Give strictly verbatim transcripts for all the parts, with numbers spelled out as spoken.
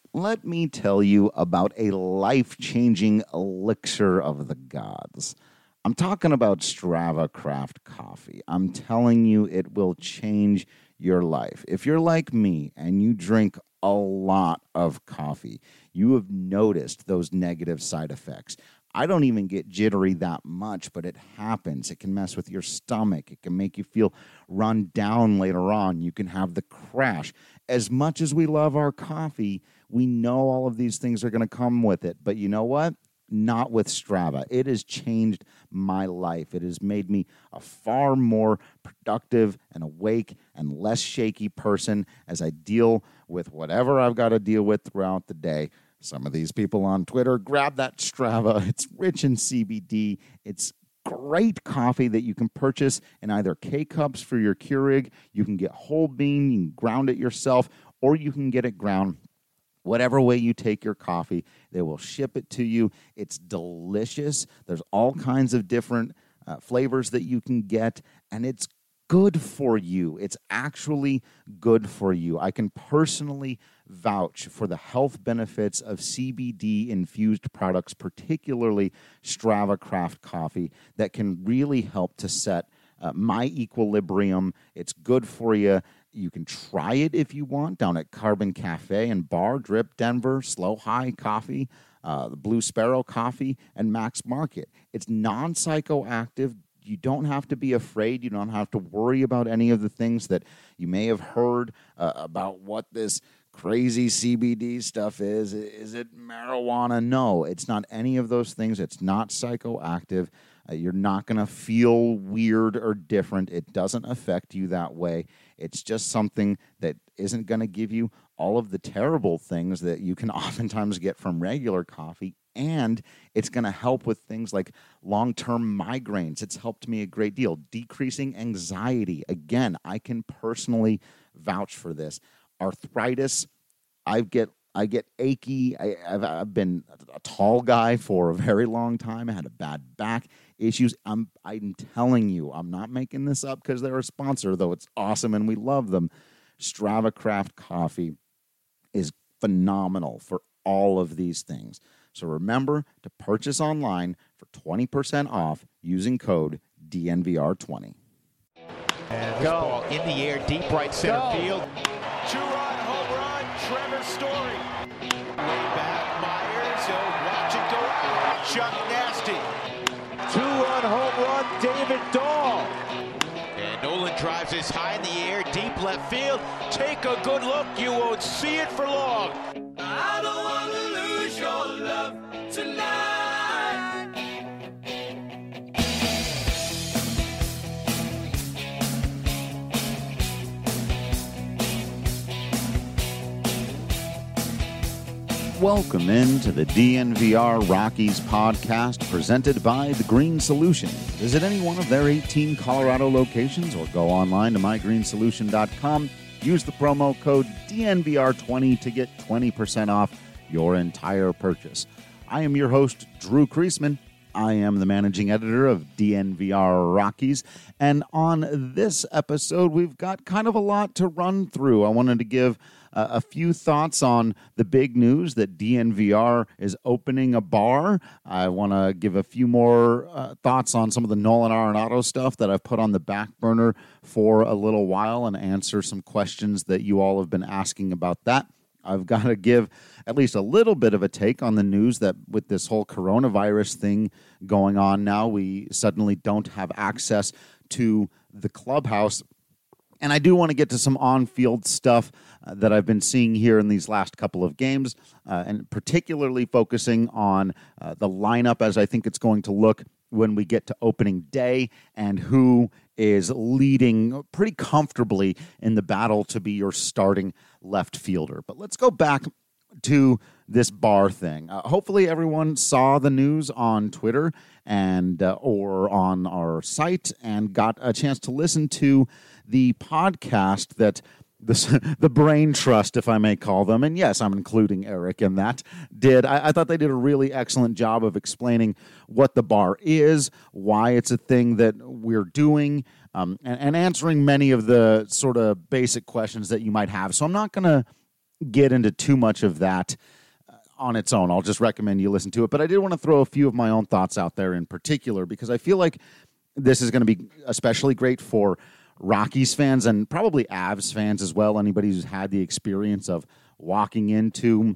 let me tell you about a life-changing elixir of the gods. I'm talking about Strava Craft Coffee. I'm telling you, it will change your life. If you're like me and you drink a lot of coffee, you have noticed those negative side effects. I don't even get jittery that much, but it happens. It can mess with your stomach. It can make you feel run down later on. You can have the crash. As much as we love our coffee, we know all of these things are going to come with it. But you know what? Not with Strava. It has changed my life. It has made me a far more productive and awake and less shaky person as I deal with whatever I've got to deal with throughout the day. Some of these people on Twitter, grab that Strava. It's rich in C B D. It's great coffee that you can purchase in either K-Cups for your Keurig. You can get whole bean, you can ground it yourself, or you can get it ground. Whatever way you take your coffee, they will ship it to you. It's delicious. There's all kinds of different uh, flavors that you can get, and it's good for you. It's actually good for you. I can personally vouch for the health benefits of C B D-infused products, particularly Strava Craft Coffee, that can really help to set uh, my equilibrium. It's good for you. You can try it if you want down at Carbon Cafe and Bar, Drip Denver, Slow High Coffee, uh, the Blue Sparrow Coffee, and Max Market. It's non-psychoactive. You don't have to be afraid. You don't have to worry about any of the things that you may have heard uh, about what this crazy C B D stuff is. Is it marijuana? No, it's not any of those things. It's not psychoactive. Uh, you're not going to feel weird or different. It doesn't affect you that way. It's just something that isn't going to give you all of the terrible things that you can oftentimes get from regular coffee. And it's going to help with things like long-term migraines. It's helped me a great deal. Decreasing anxiety. Again, I can personally vouch for this. Arthritis, I get I get achy. I, I've, I've been a tall guy for a very long time. I had a bad back issues. I'm I'm telling you, I'm not making this up because they're a sponsor, though it's awesome and we love them. Strava Craft Coffee is phenomenal for all of these things. So remember to purchase online for twenty percent off using code D N V R twenty. And this ball in the air, deep right center Go. field. Two-run home run, Trevor Story. Way back, Myers, he'll watch it go out. Chuck Nasty. Two-run home run, David Dahl. And Nolan drives this high in the air, deep left field. Take a good look, you won't see it for long. I don't want to lose your love tonight. Welcome into the D N V R Rockies podcast presented by The Green Solution. Visit any one of their eighteen Colorado locations or go online to my green solution dot com. Use the promo code D N V R twenty to get twenty percent off your entire purchase. I am your host, Drew Kreisman. I am the managing editor of D N V R Rockies. And on this episode, we've got kind of a lot to run through. I wanted to give Uh, a few thoughts on the big news that D N V R is opening a bar. I want to give a few more uh, thoughts on some of the Nolan Arenado stuff that I've put on the back burner for a little while and answer some questions that you all have been asking about that. I've got to give at least a little bit of a take on the news that with this whole coronavirus thing going on now, we suddenly don't have access to the clubhouse. And I do want to get to some on-field stuff uh, that I've been seeing here in these last couple of games, uh, and particularly focusing on uh, the lineup as I think it's going to look when we get to opening day and who is leading pretty comfortably in the battle to be your starting left fielder. But let's go back to this bar thing. Uh, hopefully everyone saw the news on Twitter and uh, or on our site and got a chance to listen to the podcast that the, the Brain Trust, if I may call them, and yes, I'm including Eric in that, did. I, I thought they did a really excellent job of explaining what the bar is, why it's a thing that we're doing, um, and, and answering many of the sort of basic questions that you might have. So I'm not going to get into too much of that on its own. I'll just recommend you listen to it. But I did want to throw a few of my own thoughts out there in particular, because I feel like this is going to be especially great for Rockies fans and probably Avs fans as well. Anybody who's had the experience of walking into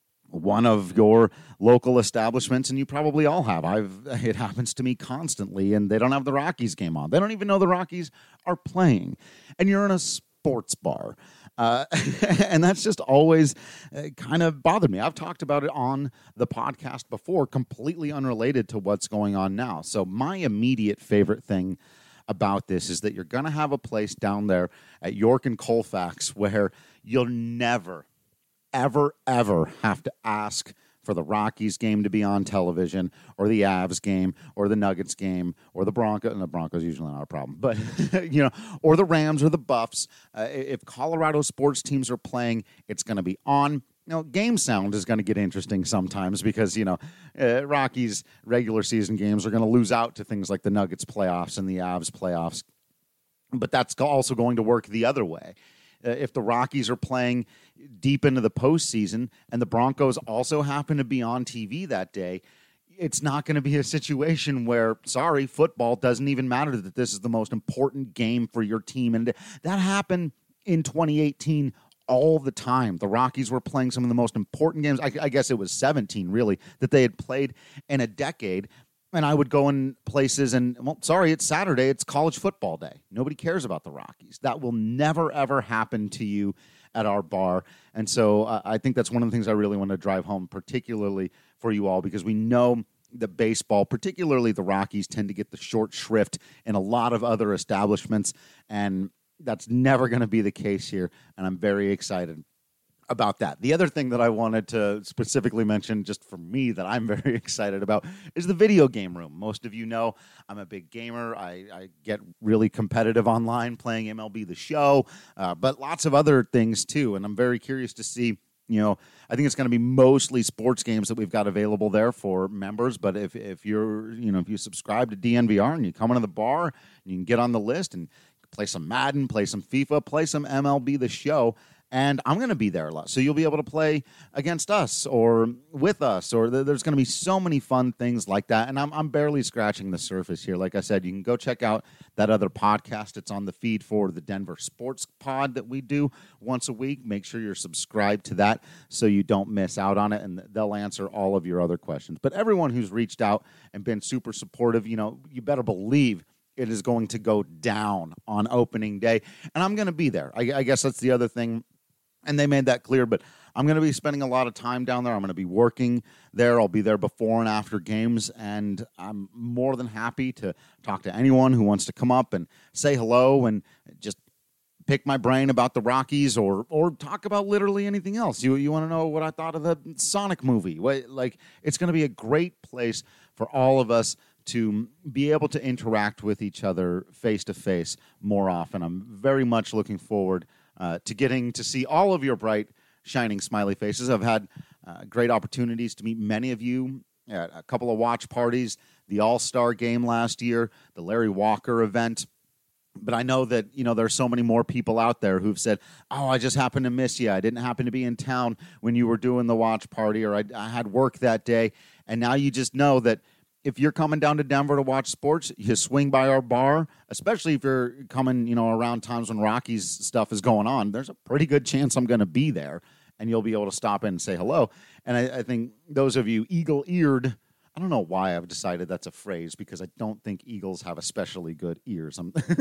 one of your local establishments, and you probably all have. I've it happens to me constantly, and they don't have the Rockies game on. They don't even know the Rockies are playing, and you're in a sports bar. Uh, and that's just always uh, kind of bothered me. I've talked about it on the podcast before, completely unrelated to what's going on now. So my immediate favorite thing about this is that you're going to have a place down there at York and Colfax where you'll never, ever, ever have to ask for the Rockies game to be on television, or the Avs game, or the Nuggets game, or the Broncos. And the Broncos usually not a problem, but you know, or the Rams or the Buffs. Uh, if Colorado sports teams are playing, it's going to be on. You know, game sound is going to get interesting sometimes because, you know, uh, Rockies regular season games are going to lose out to things like the Nuggets playoffs and the Avs playoffs. But that's also going to work the other way. Uh, if the Rockies are playing deep into the postseason and the Broncos also happen to be on T V that day, it's not going to be a situation where, sorry, football doesn't even matter, that this is the most important game for your team. And that happened in twenty eighteen all the time. The Rockies were playing some of the most important games. I, I guess it was seventeen, really, that they had played in a decade. And I would go in places and, well, sorry, it's Saturday. It's college football day. Nobody cares about the Rockies. That will never, ever happen to you at our bar. And so uh, I think that's one of the things I really want to drive home, particularly for you all, because we know that baseball, particularly the Rockies, tend to get the short shrift in a lot of other establishments. And that's never going to be the case here. And I'm very excited about that. The other thing that I wanted to specifically mention, just for me, that I'm very excited about is the video game room. Most of you know I'm a big gamer. I, I get really competitive online playing M L B The Show, uh, but lots of other things too. And I'm very curious to see, you know, I think it's going to be mostly sports games that we've got available there for members. But if, if you're, you know, if you subscribe to D N V R and you come into the bar, you can get on the list and play some Madden, play some FIFA, play some M L B The Show. And I'm going to be there a lot. So you'll be able to play against us or with us, or th- there's going to be so many fun things like that. And I'm, I'm barely scratching the surface here. Like I said, you can go check out that other podcast. It's on the feed for the Denver Sports Pod that we do once a week. Make sure you're subscribed to that so you don't miss out on it, and they'll answer all of your other questions. But everyone who's reached out and been super supportive, you know, you better believe it is going to go down on opening day. And I'm going to be there. I, I guess that's the other thing. And they made that clear, but I'm going to be spending a lot of time down there. I'm going to be working there. I'll be there before and after games, and I'm more than happy to talk to anyone who wants to come up and say hello and just pick my brain about the Rockies, or or talk about literally anything else. You you want to know what I thought of the Sonic movie? What, like, it's going to be a great place for all of us to be able to interact with each other face to face more often. I'm very much looking forward Uh, to getting to see all of your bright, shining, smiley faces. I've had uh, great opportunities to meet many of you at a couple of watch parties, the All-Star game last year, the Larry Walker event. But I know that, you know, there's so many more people out there who've said, oh, I just happened to miss you. I didn't happen to be in town when you were doing the watch party, or I, I had work that day. And now you just know that if you're coming down to Denver to watch sports, you swing by our bar, especially if you're coming, you know, around times when Rockies stuff is going on. There's a pretty good chance I'm going to be there, and you'll be able to stop in and say hello. And I, I think those of you eagle-eared, I don't know why I've decided that's a phrase, because I don't think eagles have especially good ears.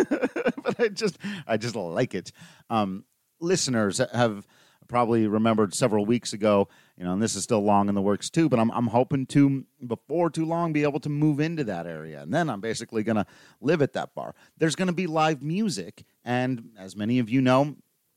But I just, I just like it. Um, listeners have probably remembered several weeks ago, you know, and this is still long in the works too, but I'm I'm hoping to, before too long, be able to move into that area. And then I'm basically going to live at that bar. There's going to be live music. And as many of you know,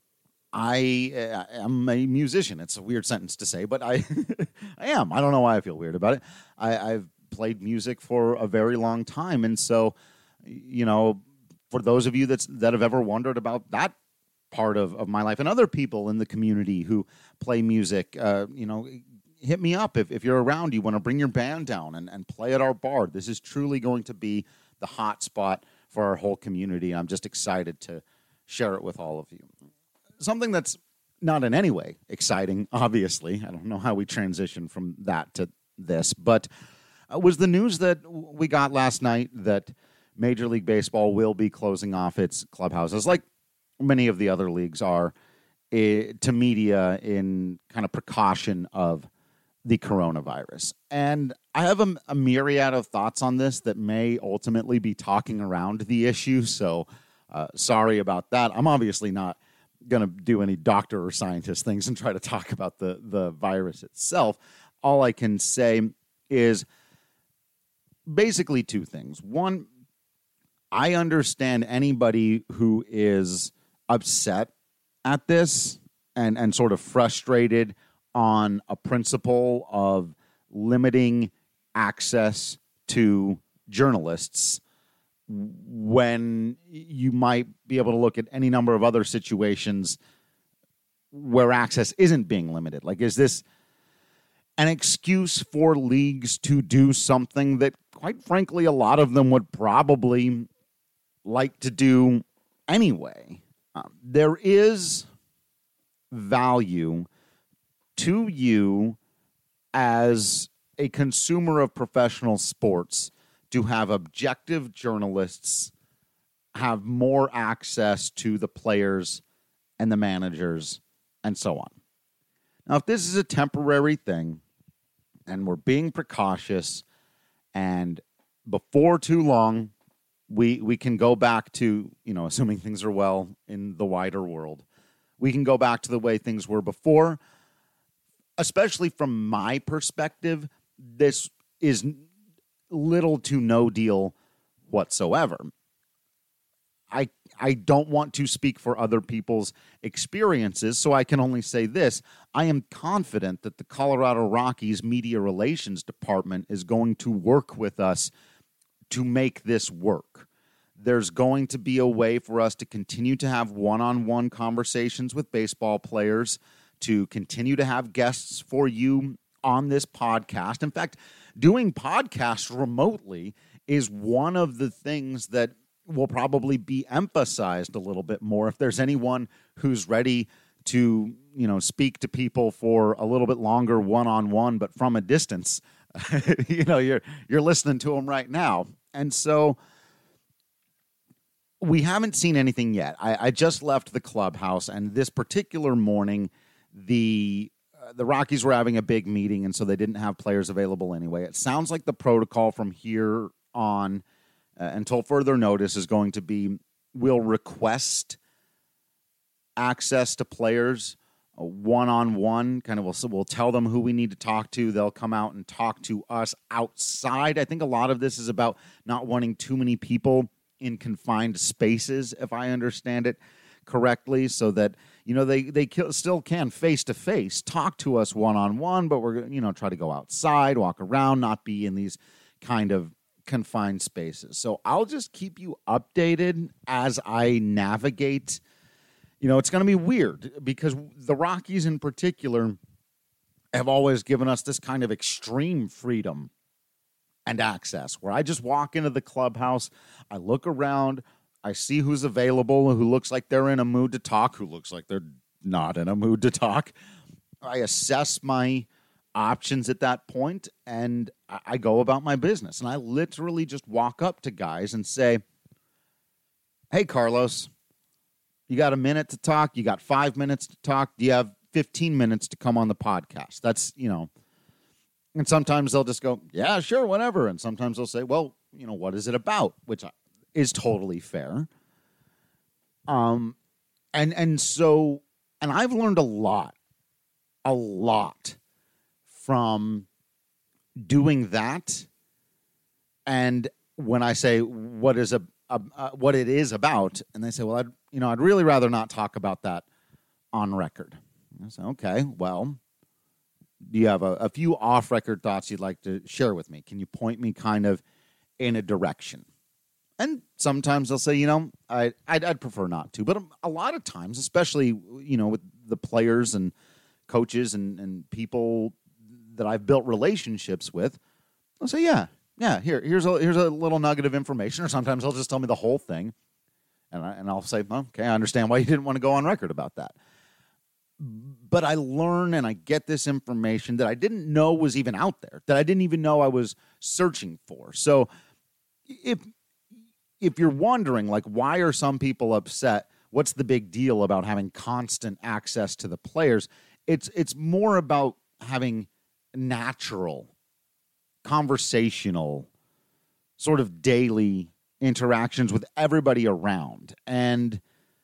I uh, am a musician. It's a weird sentence to say, but I I am. I don't know why I feel weird about it. I, I've played music for a very long time. And so, you know, for those of you that's, that have ever wondered about that part of, of my life, and other people in the community who play music, uh, you know, hit me up. If, if you're around, you want to bring your band down and, and play at our bar. This is truly going to be the hot spot for our whole community. I'm just excited to share it with all of you. Something that's not in any way exciting, obviously. I don't know how we transition from that to this, but uh, was the news that we got last night that Major League Baseball will be closing off its clubhouses, like many of the other leagues are, eh, to media in kind of precaution of the coronavirus. And I have a, a myriad of thoughts on this that may ultimately be talking around the issue, so uh, sorry about that. I'm obviously not going to do any doctor or scientist things and try to talk about the, the virus itself. All I can say is basically two things. One, I understand anybody who is upset at this and, and sort of frustrated on a principle of limiting access to journalists when you might be able to look at any number of other situations where access isn't being limited. Like, is this an excuse for leagues to do something that, quite frankly, a lot of them would probably like to do anyway? Um, there is value to you as a consumer of professional sports to have objective journalists have more access to the players and the managers and so on. Now, if this is a temporary thing and we're being precautious and before too long we we can go back to, you know, assuming things are well in the wider world, we can go back to the way things were before. Especially from my perspective, this is little to no deal whatsoever. I I don't want to speak for other people's experiences, so I can only say this. I am confident that the Colorado Rockies Media Relations Department is going to work with us to make this work. There's going to be a way for us to continue to have one-on-one conversations with baseball players, to continue to have guests for you on this podcast. In fact, doing podcasts remotely is one of the things that will probably be emphasized a little bit more. If there's anyone who's ready to, you know, speak to people for a little bit longer one-on-one, but from a distance, you know, you're you're listening to them right now. And so we haven't seen anything yet. I, I just left the clubhouse, and this particular morning, The uh, the Rockies were having a big meeting, and so they didn't have players available anyway. It sounds like the protocol from here on uh, until further notice is going to be we'll request access to players uh, one-on-one. Kind of we'll, we'll tell them who we need to talk to. They'll come out and talk to us outside. I think a lot of this is about not wanting too many people in confined spaces, if I understand it correctly, so that, you know, they they still can face-to-face talk to us one-on-one, but we're, you know, try to go outside, walk around, not be in these kind of confined spaces. So I'll just keep you updated as I navigate. You know, it's going to be weird because the Rockies in particular have always given us this kind of extreme freedom and access where I just walk into the clubhouse, I look around, I see who's available, who looks like they're in a mood to talk, who looks like they're not in a mood to talk. I assess my options at that point, and I go about my business. And I literally just walk up to guys and say, hey, Carlos, you got a minute to talk? You got five minutes to talk? Do you have fifteen minutes to come on the podcast? That's, you know, and sometimes they'll just go, yeah, sure, whatever. And sometimes they'll say, well, you know, what is it about? Which is totally fair. Um, and, and so, and I've learned a lot, a lot from doing that. And when I say what is a, a, a what it is about, and they say, well, I'd, you know, I'd really rather not talk about that on record. And I say, okay, well, do you have a, a few off-record thoughts you'd like to share with me? Can you point me kind of in a direction? And sometimes they'll say, you know, I, I'd, I'd prefer not to. But a lot of times, especially, you know, with the players and coaches and, and people that I've built relationships with, they'll say, yeah, yeah, here, here's a here's a little nugget of information. Or sometimes they'll just tell me the whole thing. And, I, and I'll say, okay, I understand why you didn't want to go on record about that. but I learn and I get this information that I didn't know was even out there, that I didn't even know I was searching for. So if if you're wondering, like, why are some people upset? What's the big deal about having constant access to the players? It's it's more about having natural, conversational, sort of daily interactions with everybody around. And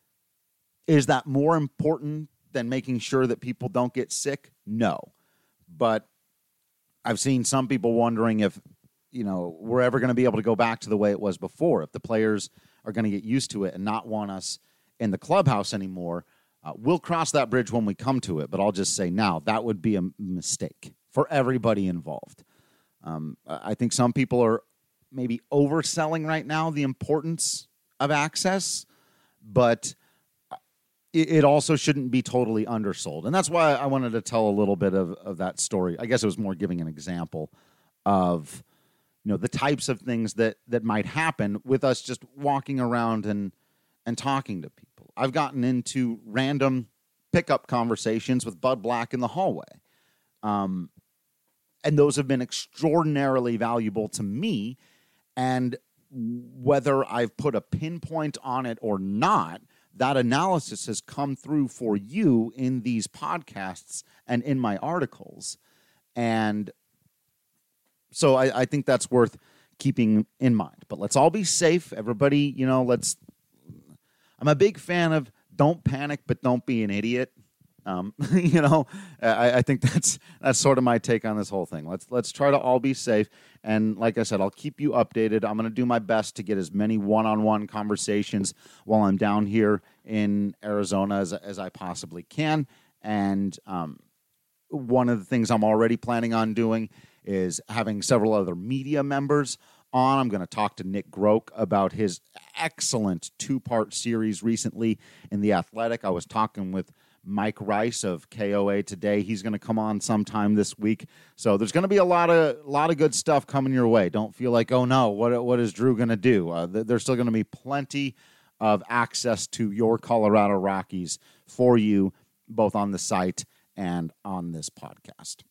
is that more important than making sure that people don't get sick? No. But I've seen some people wondering if, you know, we're ever going to be able to go back to the way it was before, if the players are going to get used to it and not want us in the clubhouse anymore. Uh, we'll cross that bridge when we come to it, but I'll just say now that would be a mistake for everybody involved. Um, I think some people are maybe overselling right now the importance of access, but it, it also shouldn't be totally undersold. And that's why I wanted to tell a little bit of, of that story. I guess it was more giving an example of, you know, the types of things that, that might happen with us just walking around and, and talking to people. I've gotten into random pickup conversations with Bud Black in the hallway. Um, and those have been extraordinarily valuable to me. And whether I've put a pinpoint on it or not, that analysis has come through for you in these podcasts and in my articles. And so I, I think that's worth keeping in mind. But let's all be safe. Everybody, you know, let's... I'm a big fan of don't panic, but don't be an idiot. Um, you know, I, I think that's that's sort of my take on this whole thing. Let's let's try to all be safe. And like I said, I'll keep you updated. I'm going to do my best to get as many one-on-one conversations while I'm down here in Arizona as, as I possibly can. And um, one of the things I'm already planning on doing is having several other media members on. I'm going to talk to Nick Groke about his excellent two-part series recently in The Athletic. I was talking with Mike Rice of K O A today. He's going to come on sometime this week. So there's going to be a lot of lot of good stuff coming your way. Don't feel like, oh no, what what is Drew going to do? Uh, th- there's still going to be plenty of access to your Colorado Rockies for you, both on the site and on this podcast.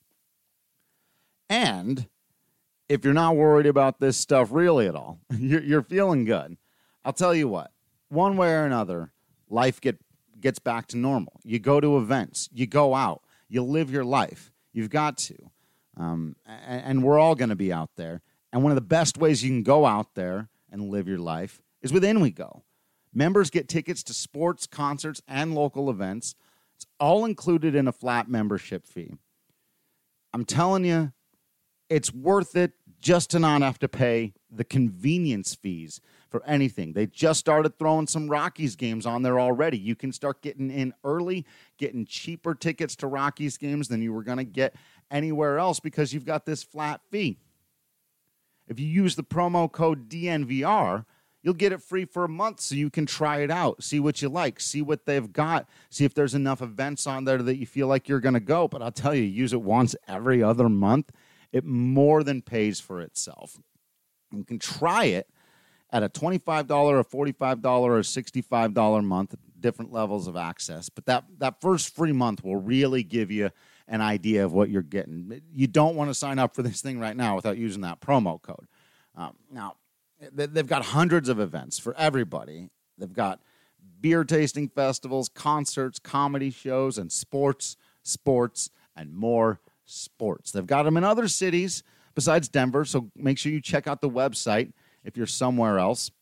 And if you're not worried about this stuff really at all, you're, you're feeling good, I'll tell you what, one way or another, life get, gets back to normal. You go to events, you go out, you live your life. You've got to. Um, and, and we're all going to be out there. And one of the best ways you can go out there and live your life is with InWeGo. Members get tickets to sports, concerts, and local events. It's all included in a flat membership fee. I'm telling you, it's worth it just to not have to pay the convenience fees for anything. They just started throwing some Rockies games on there already. You can start getting in early, getting cheaper tickets to Rockies games than you were going to get anywhere else because you've got this flat fee. If you use the promo code D N V R, you'll get it free for a month so you can try it out, see what you like, see what they've got, see if there's enough events on there that you feel like you're going to go. But I'll tell you, use it once every other month. It more than pays for itself. You can try it at a twenty-five dollars, a forty-five dollars, or a sixty-five dollars a month, different levels of access. But that, that first free month will really give you an idea of what you're getting. You don't want to sign up for this thing right now without using that promo code. Um, now, they've got hundreds of events for everybody. They've got beer tasting festivals, concerts, comedy shows, and sports, sports, and more sports. They've got them in other cities besides Denver, so make sure you check out the website if you're somewhere else.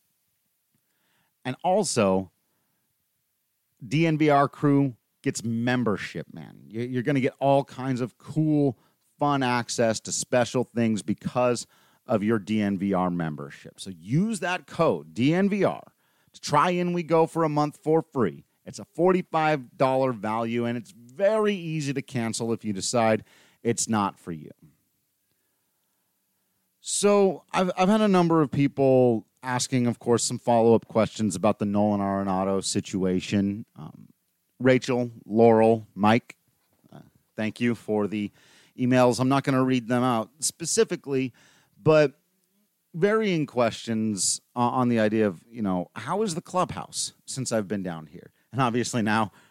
And also, D N V R crew gets membership, man. You're going to get all kinds of cool, fun access to special things because of your D N V R membership. So use that code, D N V R, to try InWeGo for a month for free. It's a forty-five dollars value, and it's very easy to cancel if you decide it's not for you. So I've I've had a number of people asking, of course, some follow-up questions about the Nolan Arenado situation. Um, Rachel, Laurel, Mike, uh, thank you for the emails. I'm not going to read them out specifically, but varying questions uh, on the idea of, you know, how is the clubhouse since I've been down here? And obviously now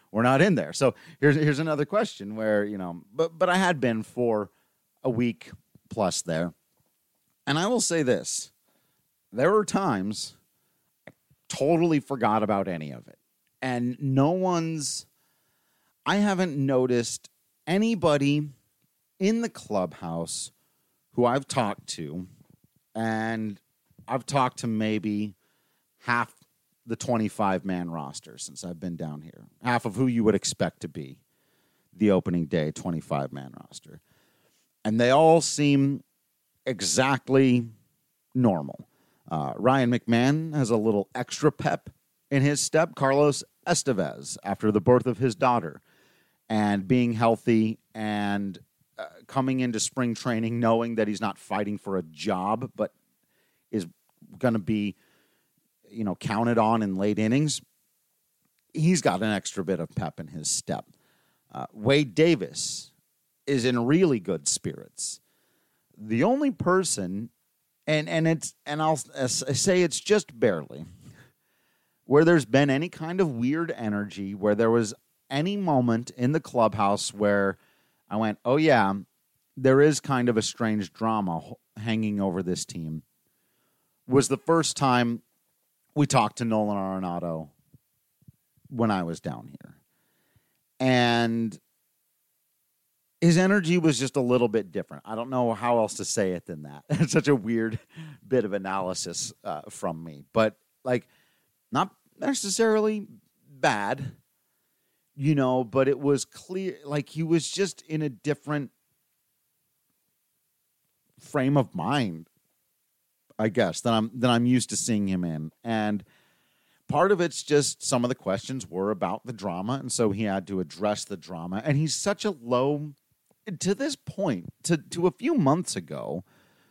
we're not in there. So here's here's another question where, you know, but but I had been for a week plus there. And I will say this. There were times I totally forgot about any of it. And no one's, I haven't noticed anybody in the clubhouse who I've talked to, and I've talked to maybe half the twenty-five man roster since I've been down here. Half of who you would expect to be the opening day twenty-five man roster. And they all seem exactly normal. Uh, Ryan McMahon has a little extra pep in his step. Carlos Estevez, after the birth of his daughter and being healthy and uh, coming into spring training knowing that he's not fighting for a job but is going to be, you know, counted on in late innings, he's got an extra bit of pep in his step. Uh, Wade Davis is in really good spirits. The only person, and and it's and I'll say it's just barely, where there's been any kind of weird energy, where there was any moment in the clubhouse where I went, oh yeah, there is kind of a strange drama hanging over this team, was the first time we talked to Nolan Arenado when I was down here. And his energy was just a little bit different. I don't know how else to say it than that. It's such a weird bit of analysis uh, from me. But, like, not necessarily bad, you know, but it was clear, like, he was just in a different frame of mind, I guess, than I'm, than I'm used to seeing him in. And part of it's just some of the questions were about the drama, and so he had to address the drama. And he's such a low, to this point, to, to a few months ago,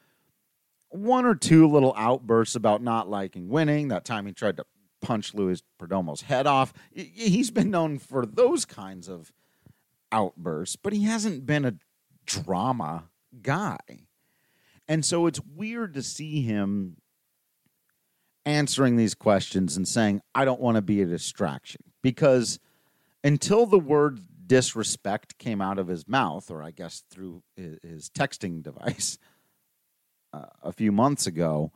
one or two little outbursts about not liking winning. That time he tried to punch Luis Perdomo's head off. He's been known for those kinds of outbursts, but he hasn't been a drama guy. And so it's weird to see him answering these questions and saying, I don't want to be a distraction. Because until the word disrespect came out of his mouth, or I guess through his texting device uh, a few months ago,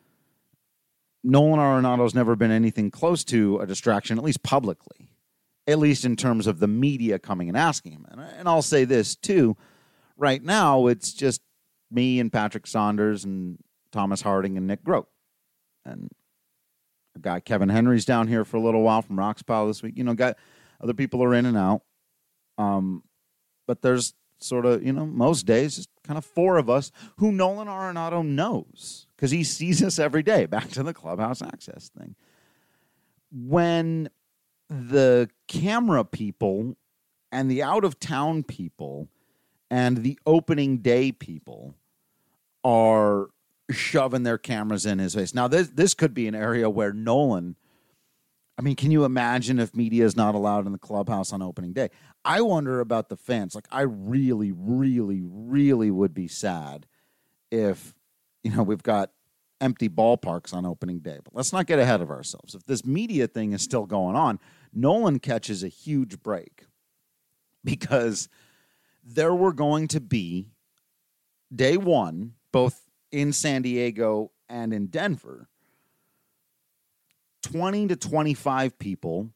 Nolan Arenado's never been anything close to a distraction, at least publicly, at least in terms of the media coming and asking him. And, and I'll say this, too. Right now, it's just me and Patrick Saunders and Thomas Harding and Nick Grote. And a guy, Kevin Henry's down here for a little while from Rocks Pile this week. You know, got other people are in and out. Um, but there's sort of, you know, most days, just kind of four of us who Nolan Arenado knows because he sees us every day. Back to the clubhouse access thing. When the camera people and the out-of-town people and the opening day people are shoving their cameras in his face. Now, this this could be an area where Nolan, I mean, can you imagine if media is not allowed in the clubhouse on opening day? I wonder about the fans. Like, I really, really, really would be sad if, you know, we've got empty ballparks on opening day. But let's not get ahead of ourselves. If this media thing is still going on, Nolan catches a huge break because there were going to be day one, both in San Diego and in Denver, twenty to twenty-five people,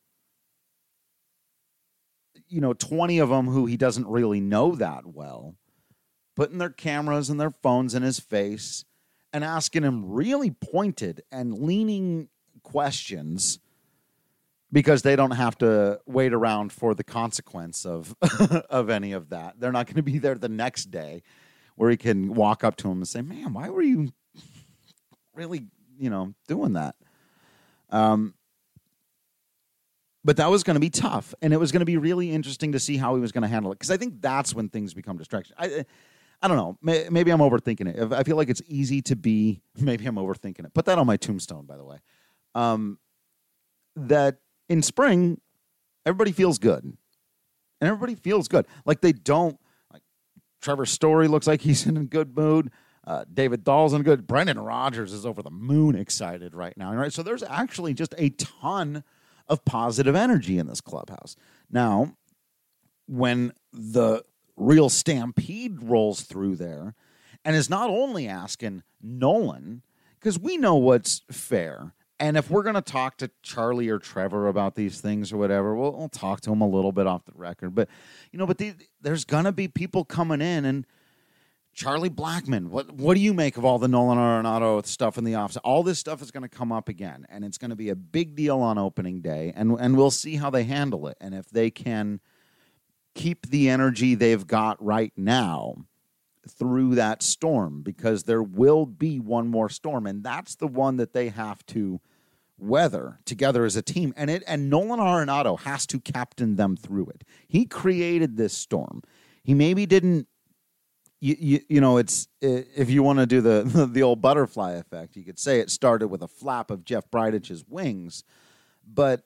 you know, twenty of them who he doesn't really know that well, putting their cameras and their phones in his face and asking him really pointed and leaning questions because they don't have to wait around for the consequence of of any of that. They're not going to be there the next day where he can walk up to him and say, man, why were you really, you know, doing that? Um, but that was going to be tough, and it was going to be really interesting to see how he was going to handle it, because I think that's when things become distractions. I, I don't know. Maybe I'm overthinking it. I feel like it's easy to be, maybe I'm overthinking it. Put that on my tombstone, by the way. Um, that in spring, everybody feels good, and everybody feels good. Like they don't, like Trevor Story looks like he's in a good mood. Uh, David Dahl's in a good. Brendan Rodgers is over the moon excited right now. Right, so there's actually just a ton of positive energy in this clubhouse. Now, when the real stampede rolls through there and is not only asking Nolan, because we know what's fair, and if we're going to talk to Charlie or Trevor about these things or whatever, we'll, we'll talk to them a little bit off the record. But, you know, but the, there's going to be people coming in, and Charlie Blackmon, what what do you make of all the Nolan Arenado stuff in the office? All this stuff is going to come up again, and it's going to be a big deal on opening day, and and we'll see how they handle it. And if they can keep the energy they've got right now through that storm, because there will be one more storm, and that's the one that they have to weather together as a team. And it and Nolan Arenado has to captain them through it. He created this storm. He maybe didn't, you, you, you know, it's, if you want to do the, the old butterfly effect, you could say it started with a flap of Jeff Bridich's wings, but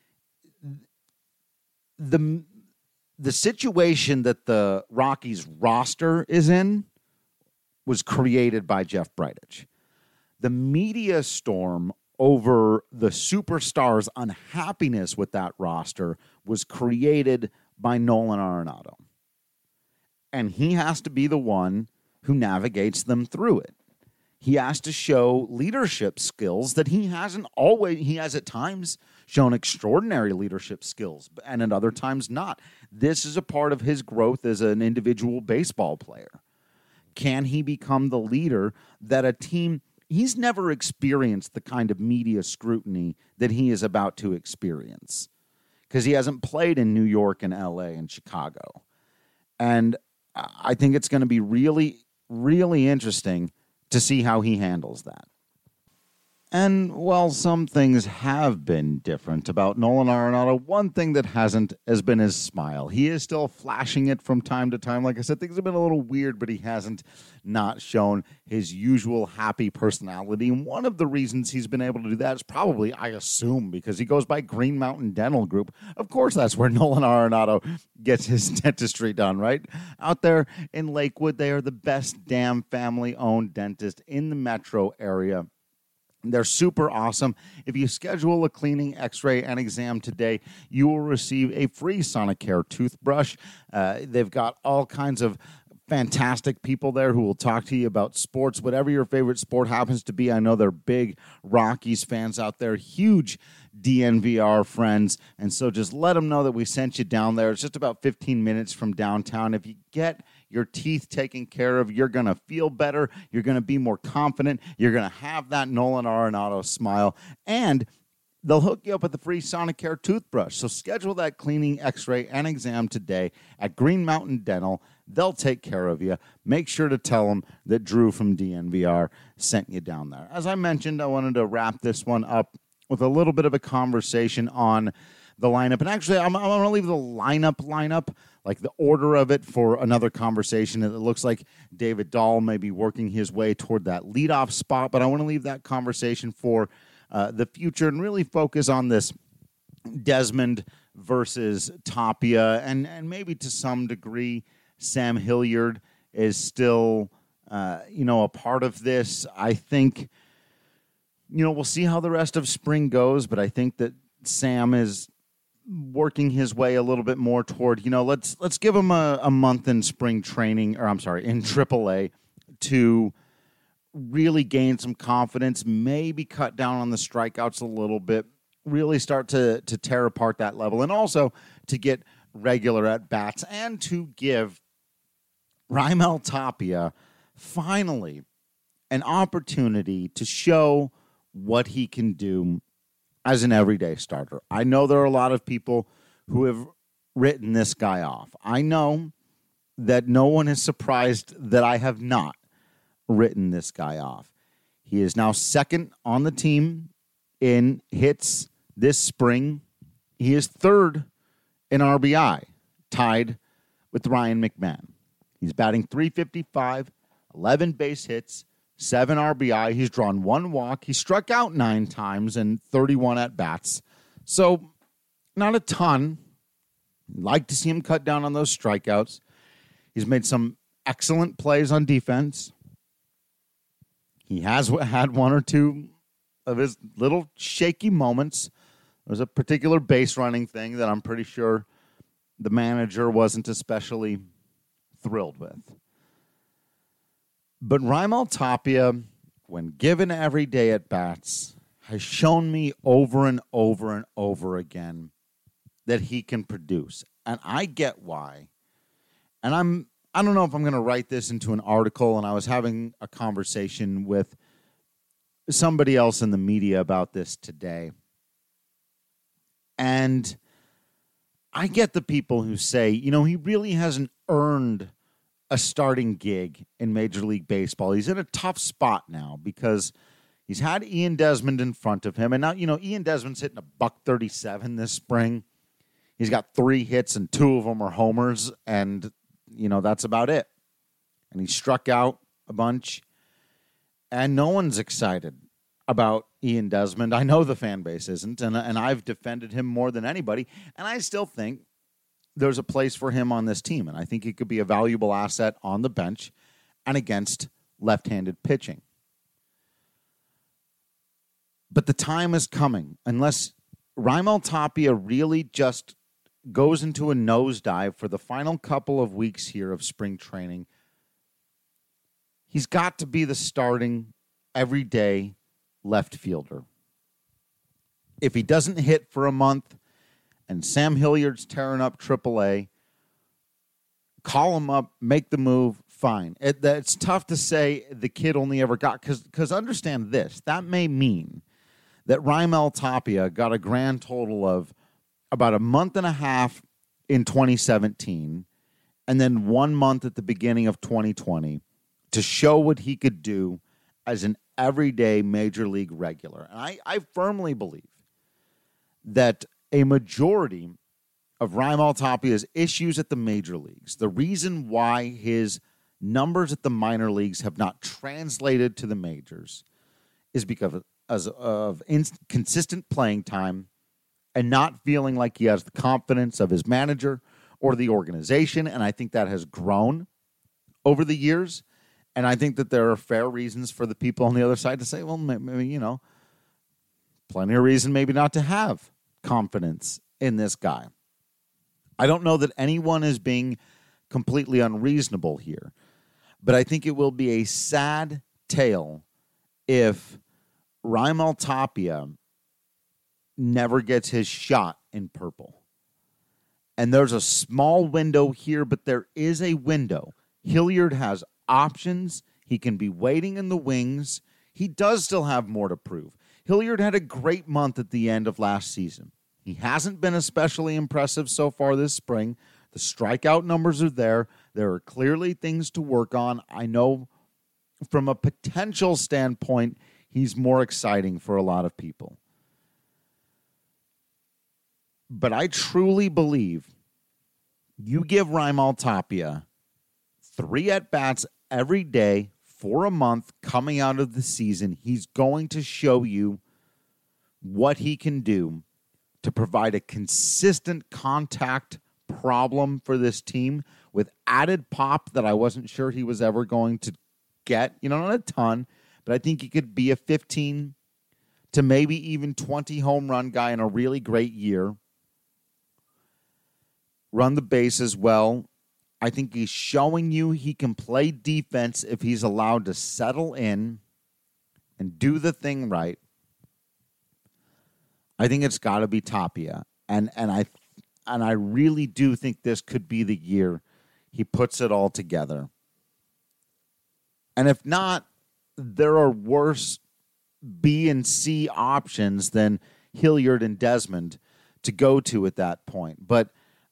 the the situation that the Rockies roster is in was created by Jeff Bridich. The media storm over the superstars' unhappiness with that roster was created by Nolan Arenado. And he has to be the one who navigates them through it. He has to show leadership skills that he hasn't always, he has at times shown extraordinary leadership skills, and at other times not. This is a part of his growth as an individual baseball player. Can he become the leader that a team, he's never experienced the kind of media scrutiny that he is about to experience because he hasn't played in New York and L A and Chicago. And I think it's going to be really, really interesting to see how he handles that. And while some things have been different about Nolan Arenado, one thing that hasn't has been his smile. He is still flashing it from time to time. Like I said, things have been a little weird, but he hasn't not shown his usual happy personality. And one of the reasons he's been able to do that is probably, I assume, because he goes by Green Mountain Dental Group. Of course, that's where Nolan Arenado gets his dentistry done, right? Out there in Lakewood, they are the best damn family-owned dentist in the metro area. They're super awesome. If you schedule a cleaning, x-ray, and exam today, you will receive a free Sonicare toothbrush. Uh, they've got all kinds of fantastic people there who will talk to you about sports, whatever your favorite sport happens to be. I know they're big Rockies fans out there, huge D N V R friends, and so just let them know that we sent you down there. It's just about fifteen minutes from downtown. If you get your teeth taken care of, you're going to feel better, you're going to be more confident, you're going to have that Nolan Arenado smile, and they'll hook you up with a free Sonicare toothbrush. So schedule that cleaning, x-ray, and exam today at Green Mountain Dental. They'll take care of you. Make sure to tell them that Drew from D N V R sent you down there. As I mentioned, I wanted to wrap this one up with a little bit of a conversation on the lineup. And actually, I'm, I'm going to leave the lineup lineup, like the order of it, for another conversation. It looks like David Dahl may be working his way toward that leadoff spot, but I want to leave that conversation for uh, the future and really focus on this Desmond versus Tapia, and, and maybe to some degree Sam Hilliard is still, uh, you know, a part of this. I think, you know, we'll see how the rest of spring goes, but I think that Sam is working his way a little bit more toward, you know, let's let's give him a, a month in spring training, or I'm sorry, in triple A to really gain some confidence, maybe cut down on the strikeouts a little bit, really start to to tear apart that level, and also to get regular at-bats and to give Raimel Tapia finally an opportunity to show what he can do as an everyday starter. I know there are a lot of people who have written this guy off. I know that no one is surprised that I have not written this guy off. He is now second on the team in hits this spring. He is third in R B I, tied with Ryan McMahon. He's batting three fifty-five, eleven base hits, seven R B I. He's drawn one walk. He struck out nine times and thirty-one at-bats. So not a ton. Like to see him cut down on those strikeouts. He's made some excellent plays on defense. He has had one or two of his little shaky moments, was a particular base running thing that I'm pretty sure the manager wasn't especially thrilled with. But Raimel Tapia, when given every day at bats, has shown me over and over and over again that he can produce. And I get why. And I'm, I don't know if I'm going to write this into an article, and I was having a conversation with somebody else in the media about this today. And I get the people who say, you know, he really hasn't earned a starting gig in Major League Baseball. He's in a tough spot now because he's had Ian Desmond in front of him. And now, you know, Ian Desmond's hitting a buck thirty-seven this spring. He's got three hits and two of them are homers. And, you know, that's about it. And he struck out a bunch. And no one's excited about Ian Desmond. I know the fan base isn't. And, and I've defended him more than anybody. And I still think there's a place for him on this team. And I think he could be a valuable asset on the bench and against left-handed pitching. But the time is coming. Unless Raimel Tapia really just goes into a nosedive for the final couple of weeks here of spring training, he's got to be the starting everyday left fielder. If he doesn't hit for a month and Sam Hilliard's tearing up triple A, call him up, make the move, fine. It, it's tough to say the kid only ever got, because because understand this, that may mean that Raimel Tapia got a grand total of about a month and a half in twenty seventeen and then one month at the beginning of twenty twenty to show what he could do as an everyday major league regular. And I, I firmly believe that a majority of Raimel Tapia's issues at the major leagues, the reason why his numbers at the minor leagues have not translated to the majors, is because of, as of inconsistent playing time and not feeling like he has the confidence of his manager or the organization. And I think that has grown over the years. And I think that there are fair reasons for the people on the other side to say, well, maybe, you know, plenty of reason maybe not to have confidence in this guy. I don't know that anyone is being completely unreasonable here, but I think it will be a sad tale if Raimel Tapia never gets his shot in purple. And there's a small window here, but there is a window. Hilliard has options. He can be waiting in the wings. He does still have more to prove. Hilliard had a great month at the end of last season. He hasn't been especially impressive so far this spring. The strikeout numbers are there. There are clearly things to work on. I know from a potential standpoint, he's more exciting for a lot of people. But I truly believe you give Raimel Tapia three at-bats every day for a month coming out of the season, he's going to show you what he can do to provide a consistent contact problem for this team with added pop that I wasn't sure he was ever going to get. You know, not a ton, but I think he could be a fifteen to maybe even twenty home run guy in a really great year. Run the bases well. I think he's showing you he can play defense if he's allowed to settle in and do the thing right. I think it's got to be Tapia. And and I and I really do think this could be the year he puts it all together. And if not, there are worse B and C options than Hilliard and Desmond to go to at that point. But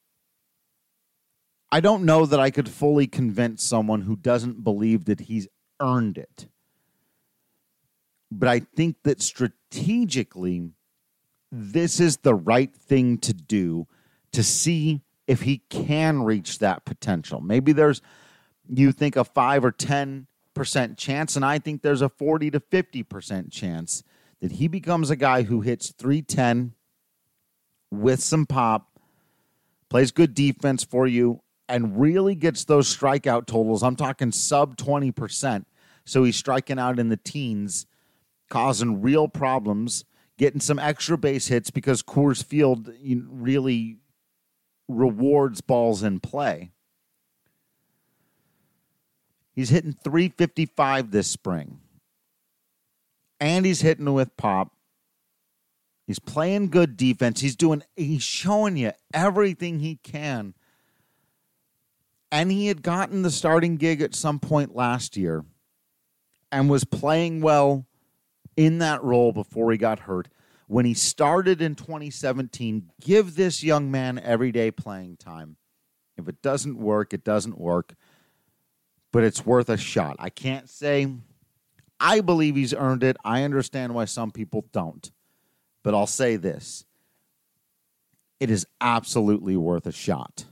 I don't know that I could fully convince someone who doesn't believe that he's earned it. But I think that strategically, this is the right thing to do to see if he can reach that potential. Maybe there's, you think, a five or ten percent chance, and I think there's a forty to fifty percent chance that he becomes a guy who hits three ten with some pop, plays good defense for you, and really gets those strikeout totals. I'm talking sub twenty percent. So he's striking out in the teens, causing real problems, getting some extra base hits because Coors Field really rewards balls in play. He's hitting three fifty-five this spring. And he's hitting with pop. He's playing good defense. He's doing, he's showing you everything he can. And he had gotten the starting gig at some point last year and was playing well in that role before he got hurt. When he started in twenty seventeen, give this young man everyday playing time. If it doesn't work, it doesn't work. But it's worth a shot. I can't say I believe he's earned it. I understand why some people don't. But I'll say this. It is absolutely worth a shot.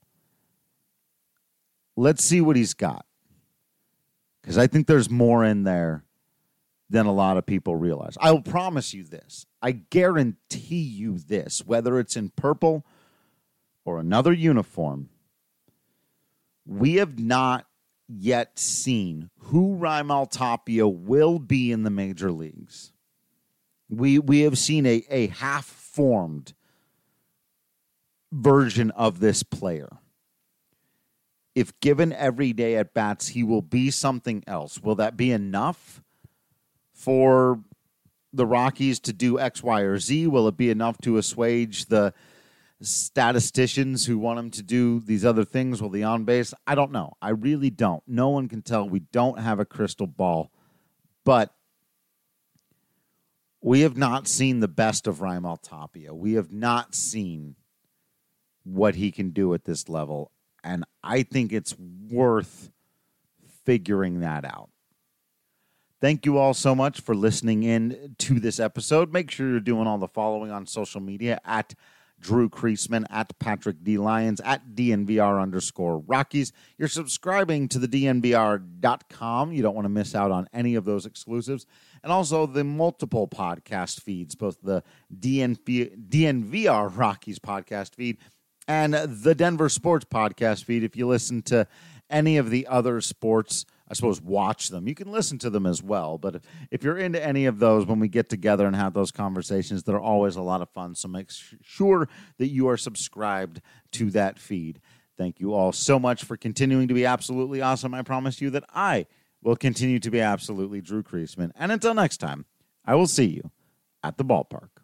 Let's see what he's got. Because I think there's more in there than a lot of people realize. I will promise you this. I guarantee you this. Whether it's in purple or another uniform, we have not yet seen who Raimel Tapia will be in the major leagues. We we have seen a, a half-formed version of this player. If given every day at bats, he will be something else. Will that be enough for the Rockies to do X, Y, or Z? Will it be enough to assuage the statisticians who want him to do these other things? Will the on base? I don't know. I really don't. No one can tell. We don't have a crystal ball. But we have not seen the best of Raimel Tapia. We have not seen what he can do at this level. And I think it's worth figuring that out. Thank you all so much for listening in to this episode. Make sure you're doing all the following on social media at Drew Creasman, at Patrick D. Lyons, at D N V R underscore Rockies. You're subscribing to the D N V R dot com. You don't want to miss out on any of those exclusives. And also the multiple podcast feeds, both the D N V R Rockies podcast feed and the Denver Sports podcast feed. If you listen to any of the other sports, I suppose watch them. You can listen to them as well. But if you're into any of those, when we get together and have those conversations, they're always a lot of fun. So make sure that you are subscribed to that feed. Thank you all so much for continuing to be absolutely awesome. I promise you that I will continue to be absolutely Drew Creasman. And until next time, I will see you at the ballpark.